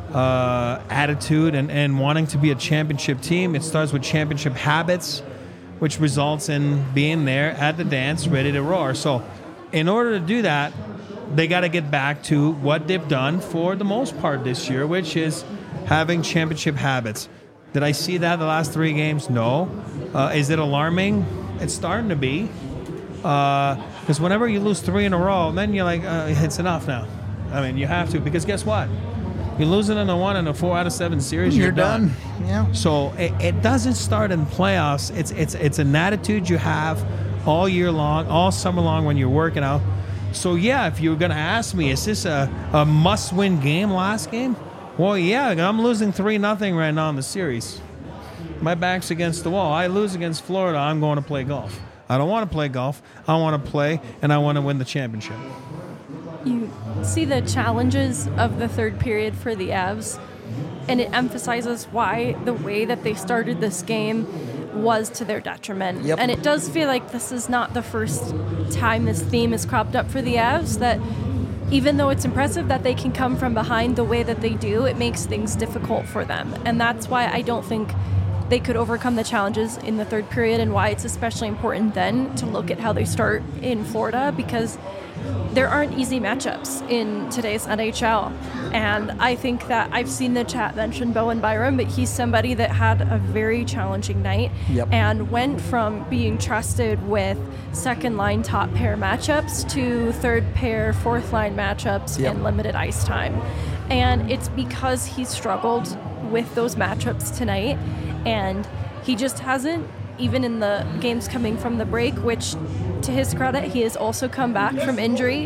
attitude and wanting to be a championship team. It starts with championship habits, which results in being there at the dance, ready to roar. So in order to do that, they got to get back to what they've done for the most part this year, which is having championship habits. Did I see that the last 3 games? No. Is it alarming? It's starting to be. Because whenever you lose 3 in a row, then you're like, it's enough now. I mean, you have to, because guess what? You're losing in a 1 and a 4 out of 7 series. You're done. Yeah. So it doesn't start in playoffs. It's an attitude you have all year long, all summer long when you're working out. So yeah, if you're gonna ask me, is this a must-win game? Last game? Well, yeah, I'm losing 3-0 right now in the series. My back's against the wall. I lose against Florida. I'm going to play golf. I don't want to play golf. I want to play, and I want to win the championship. You see the challenges of the third period for the Avs, and it emphasizes why the way that they started this game was to their detriment. Yep. And it does feel like this is not the first time this theme has cropped up for the Avs, that even though it's impressive that they can come from behind the way that they do, it makes things difficult for them. And that's why I don't think they could overcome the challenges in the third period, and why it's especially important then to look at how they start in Florida, because there aren't easy matchups in today's NHL. And I think that I've seen the chat mention Bowen Byram, but he's somebody that had a very challenging night. Yep. And went from being trusted with second line top pair matchups to third pair, fourth line matchups Yep. and limited ice time. And it's because he struggled with those matchups tonight, and he just hasn't, even in the games coming from the break, which to his credit, he has also come back from injury.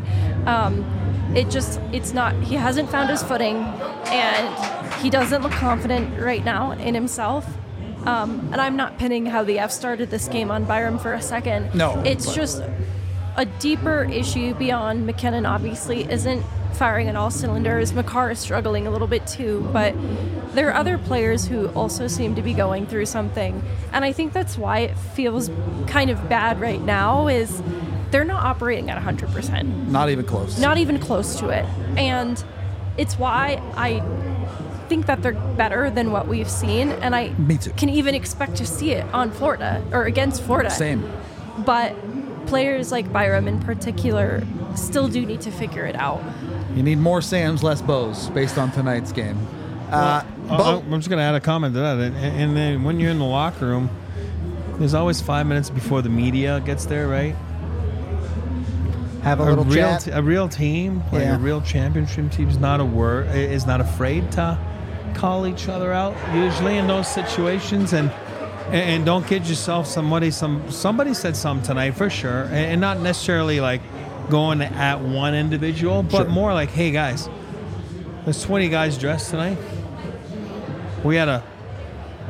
He hasn't found his footing, and he doesn't look confident right now in himself. And I'm not pinning how the F started this game on Byram for a second. No, It's but- just a deeper issue beyond McKinnon, obviously, isn't firing on all cylinders. Makar is struggling a little bit too, but there are other players who also seem to be going through something. And I think that's why it feels kind of bad right now, is they're not operating at 100%. Not even close. Not even close to it. And it's why I think that they're better than what we've seen, and I Me too. can even expect to see it on Florida or against Florida. Same. But players like Byram in particular still do need to figure it out. You need more Sams, less Bows, based on tonight's game. I'm just going to add a comment to that. And then when you're in the locker room, there's always 5 minutes before the media gets there, right? Have a little chat. A real team, like Yeah. a real championship team, is not afraid to call each other out usually in those situations, and don't kid yourself. Somebody said something tonight for sure, and not necessarily like going at one individual, but Sure. more like, hey guys, there's 20 guys dressed tonight. We had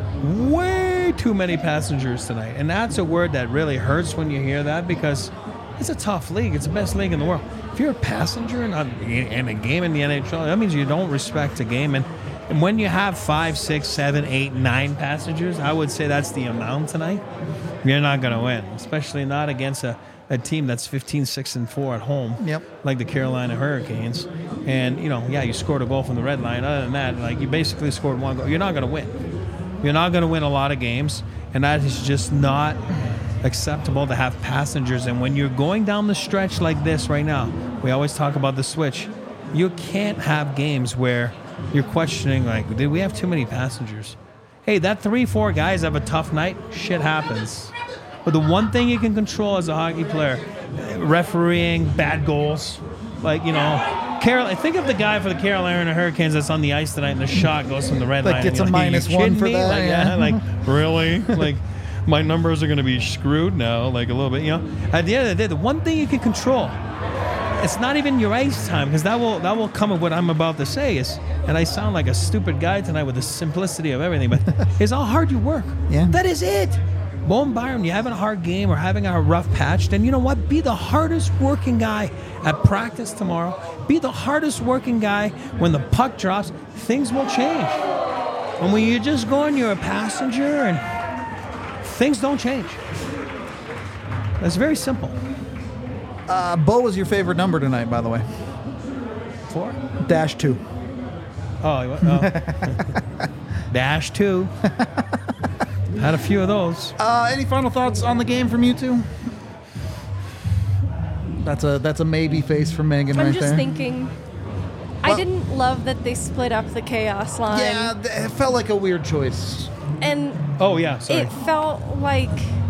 way too many passengers tonight, and that's a word that really hurts when you hear that, because It's a tough league. It's the best league in the world. If you're a passenger in a game in the NHL, that means you don't respect the game. And when you have 5, 6, 7, 8, 9 passengers, I would say that's the amount tonight. You're not going to win, especially not against a team that's 15-6-4 at home, like the Carolina Hurricanes. And, you scored a goal from the red line. Other than that, like, you basically scored one goal. You're not going to win. You're not going to win a lot of games, and that is just not acceptable to have passengers. And when you're going down the stretch like this right now, we always talk about the switch. You can't have games where you're questioning, like, did we have too many passengers? Hey, that 3-4 guys have a tough night. Shit happens. But the one thing you can control as a hockey player, refereeing, bad goals, like, think of the guy for the Carolina Hurricanes that's on the ice tonight and the shot goes from the red line. Like, gets a -1 for that. Like, really? Like, my numbers are going to be screwed now, like a little bit, At the end of the day, the one thing you can control, it's not even your ice time, because that will come with what I'm about to say is, and I sound like a stupid guy tonight with the simplicity of everything, but it's how hard you work. Yeah. That is it. Bowen Byram, you're having a hard game or having a rough patch, then you know what? Be the hardest working guy at practice tomorrow. Be the hardest working guy when the puck drops. Things will change. And when you're just going, you're a passenger, and things don't change. That's very simple. Bo was your favorite number tonight, by the way. 4? -2. Oh. -2. Had a few of those. Any final thoughts on the game from you two? That's a maybe face from Megan right there. I'm just thinking. I didn't love that they split up the chaos line. Yeah, it felt like a weird choice. And sorry. It felt like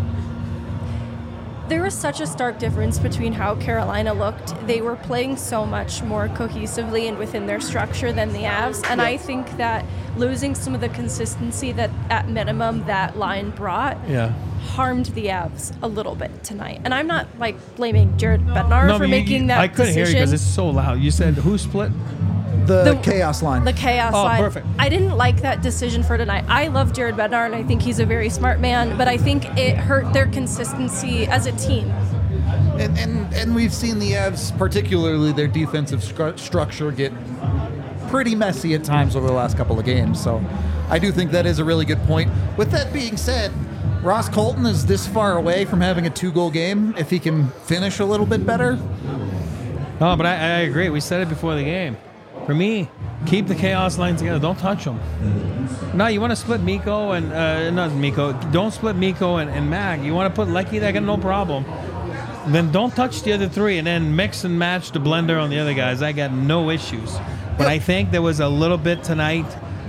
there was such a stark difference between how Carolina looked. They were playing so much more cohesively and within their structure than the Avs. And I think that losing some of the consistency that, at minimum, that line brought harmed the Avs a little bit tonight. And I'm not, blaming Jared Bednar for making that decision. I couldn't hear you because it's so loud. You said who split? The chaos line. The chaos line. Oh, perfect. I didn't like that decision for tonight. I love Jared Bednar, and I think he's a very smart man, but I think it hurt their consistency as a team. And we've seen the Avs, particularly their defensive structure, get pretty messy at times over the last couple of games. So I do think that is a really good point. With that being said, Ross Colton is this far away from having a 2-goal game. If he can finish a little bit better. No, but I agree. We said it before the game. For me, keep the chaos line together. Don't touch them. No, you want to split Mikko and not Mikko. Don't split Mikko and Mag. You want to put Lecky there, no problem. Then don't touch the other 3, and then mix and match the blender on the other guys. I got no issues. But I think there was a little bit tonight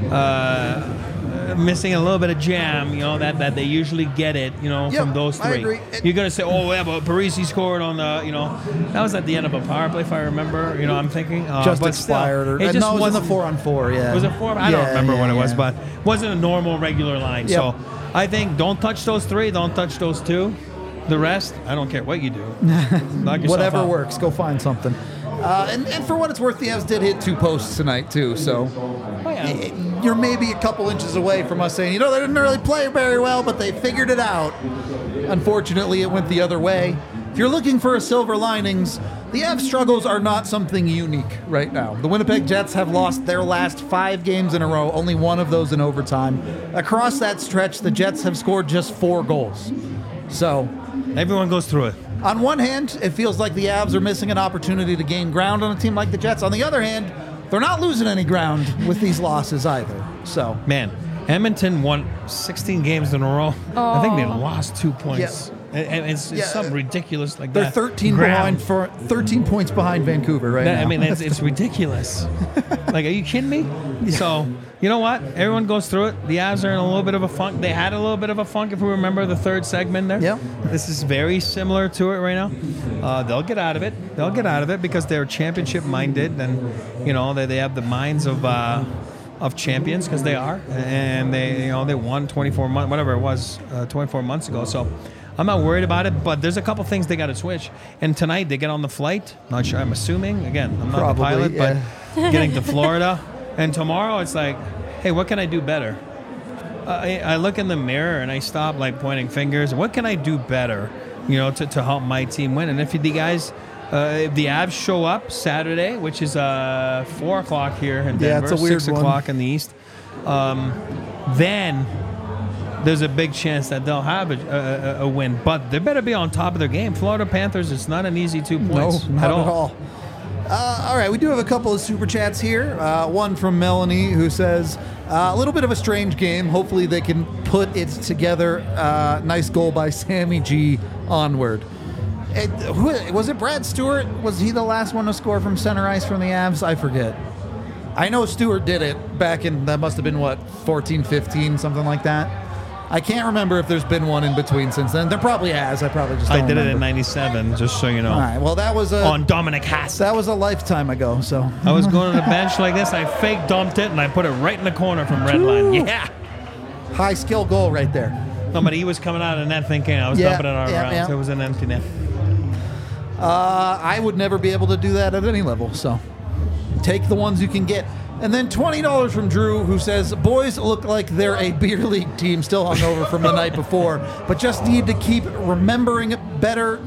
missing a little bit of jam, that they usually get it, from those 3. I agree. You're going to say, but Parisi scored on the, that was at the end of a power play, if I remember, I'm thinking. Just expired. It just was in the 4-on-4, yeah. Was it 4? I don't remember what it was, but it wasn't a normal, regular line. Yep. So I think don't touch those 3, don't touch those 2. The rest, I don't care what you do. Knock yourself Whatever out. works, go find something. And for what it's worth, the Avs did hit 2 posts tonight, too, so you're maybe a couple inches away from us saying, they didn't really play very well, but they figured it out. Unfortunately, it went the other way. If you're looking for a silver linings, the Avs struggles are not something unique right now. The Winnipeg Jets have lost their last 5 games in a row, only 1 of those in overtime. Across that stretch, the Jets have scored just 4 goals. So everyone goes through it. On one hand, it feels like the Avs are missing an opportunity to gain ground on a team like the Jets. On the other hand, they're not losing any ground with these losses either. So, man, Edmonton won 16 games in a row. Oh. I think they lost 2 points. Yeah. And it's something ridiculous like they're that. They're 13 points behind Vancouver right now. I mean, it's ridiculous. Like, are you kidding me? Yeah. So, you know what? Everyone goes through it. The Avs are in a little bit of a funk. They had a little bit of a funk, if we remember the 3rd segment there. Yep. This is very similar to it right now. They'll get out of it. They'll get out of it because they're championship-minded, and, they have the minds of champions, because they are. And they won 24 months, whatever it was, 24 months ago. So I'm not worried about it, but there's a couple things they got to switch. And tonight they get on the flight. Not sure. I'm assuming. Again, I'm not Probably, the pilot, yeah. but getting to Florida. And tomorrow it's like, hey, what can I do better? I look in the mirror and I stop pointing fingers. What can I do better to help my team win. And if the guys, if the Avs show up Saturday, which is 4 o'clock here in Denver, it's a weird 6 o'clock in the East, then there's a big chance that they'll have a win. But they better be on top of their game. Florida Panthers, it's not an easy 2 points No, not at all. All right, we do have a couple of super chats here. One from Melanie who says, a little bit of a strange game. Hopefully they can put it together. Nice goal by Sammy G. Onward. Was it Brad Stewart? Was he the last one to score from center ice from the Avs? I forget. I know Stewart did it back in, that must have been, 14, 15, something like that. I can't remember if there's been one in between since then. There probably has. I probably just don't I did remember. it in 97, just so you know. All right, well, that was On Dominic Haas. that was a lifetime ago, so. I was going on the bench like this. I fake dumped it, and I put it right in the corner from red line. Yeah. High skill goal right there. No, but he was coming out of the net thinking I was Yeah, dumping it out of yeah, rounds. yeah. It was an empty net. I would never be able to do that at any level, so take the ones you can get. And then $20 from Drew, who says, boys look like they're a beer league team still hungover from the night before, but just need to keep remembering better.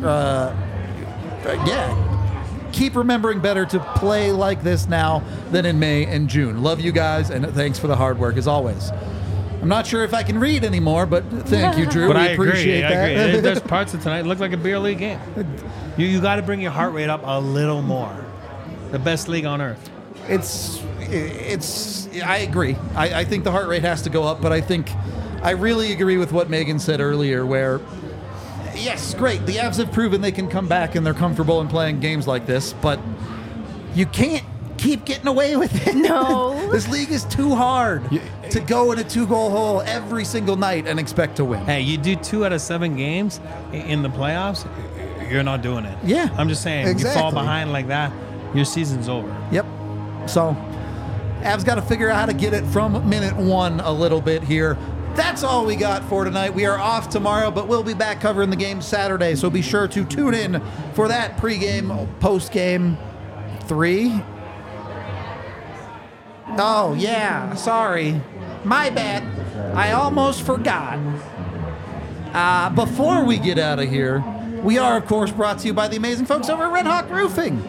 Keep remembering better to play like this now than in May and June. Love you guys, and thanks for the hard work as always. I'm not sure if I can read anymore, but thank you, Drew. But we I agree. appreciate I that. agree. There's parts of tonight look like a beer league game. You got to bring your heart rate up a little more. The best league on earth. I agree. I think the heart rate has to go up, but I really agree with what Megan said earlier, where, yes, great, the Avs have proven they can come back and they're comfortable in playing games like this, but you can't keep getting away with it. No. This league is too hard to go in a 2-goal hole every single night and expect to win. Hey, you do 2 out of 7 games in the playoffs, you're not doing it. Yeah, I'm just saying, you fall exactly. behind like that, your season's over. Yep. So, Avs got to figure out how to get it from minute 1 a little bit here. That's all we got for tonight. We are off tomorrow, but we'll be back covering the game Saturday, so be sure to tune in for that pregame, postgame 3. Oh, yeah, sorry. My bad. I almost forgot. Before we get out of here, we are, of course, brought to you by the amazing folks over at Red Hawk Roofing.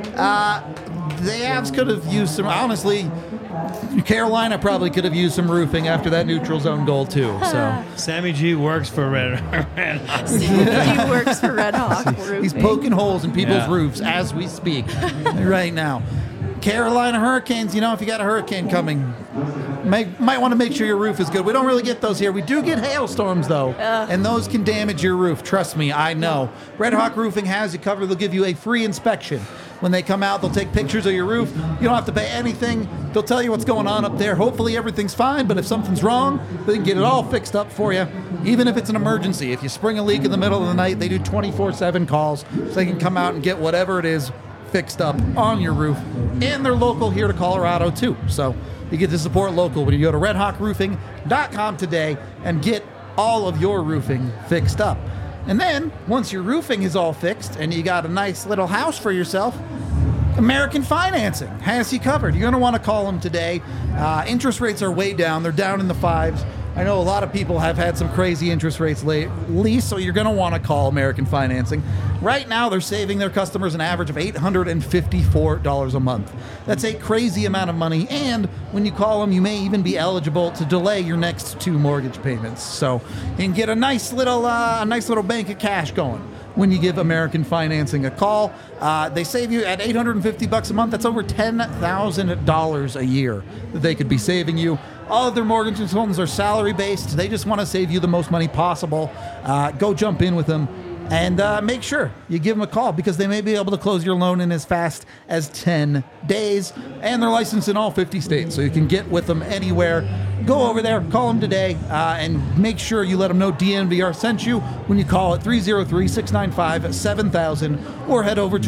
The Avs could have used some, honestly, Carolina probably could have used some roofing after that neutral zone goal, too. So Sammy G works for Red Hawk. He works for Red Hawk Roofing. he's poking holes in people's Yeah. roofs as we speak right now. Carolina Hurricanes, if you got a hurricane coming, might want to make sure your roof is good. We don't really get those here. We do get hailstorms, though, and those can damage your roof. Trust me, I know. Red Hawk Roofing has you covered. They'll give you a free inspection. When they come out, they'll take pictures of your roof. You don't have to pay anything. They'll tell you what's going on up there. Hopefully everything's fine, but if something's wrong, they can get it all fixed up for you, even if it's an emergency. If you spring a leak in the middle of the night, they do 24/7 calls, so they can come out and get whatever it is fixed up on your roof. And they're local here to Colorado, too. So you get to support local when you go to redhawkroofing.com today and get all of your roofing fixed up. And then, once your roofing is all fixed and you got a nice little house for yourself, American Financing has you covered. You're going to want to call them today. Interest rates are way down. They're down in the 5s. I know a lot of people have had some crazy interest rates lately, so you're going to want to call American Financing. Right now, they're saving their customers an average of $854 a month. That's a crazy amount of money, and when you call them, you may even be eligible to delay your next 2 mortgage payments. So you can get a nice little bank of cash going when you give American Financing a call. They save you at $850 a month. That's over $10,000 a year that they could be saving you. All of their mortgage consultants are salary-based. They just want to save you the most money possible. Go jump in with them and make sure you give them a call, because they may be able to close your loan in as fast as 10 days. And they're licensed in all 50 states, so you can get with them anywhere. Go over there, call them today, and make sure you let them know DNVR sent you when you call at 303-695-7000 or head over to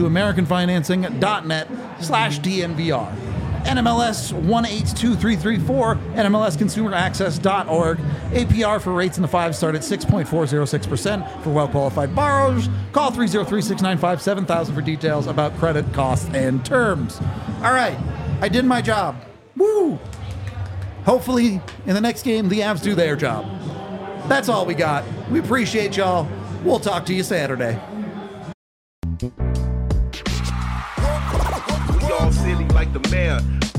americanfinancing.net/DNVR. NMLS 182334, NMLSconsumeraccess.org. APR for rates in the 5 start at 6.406% for well-qualified borrowers. Call 303-695-7000 for details about credit, costs, and terms. All right, I did my job. Woo! Hopefully, in the next game, the Avs do their job. That's all we got. We appreciate y'all. We'll talk to you Saturday. We all silly like the mayor.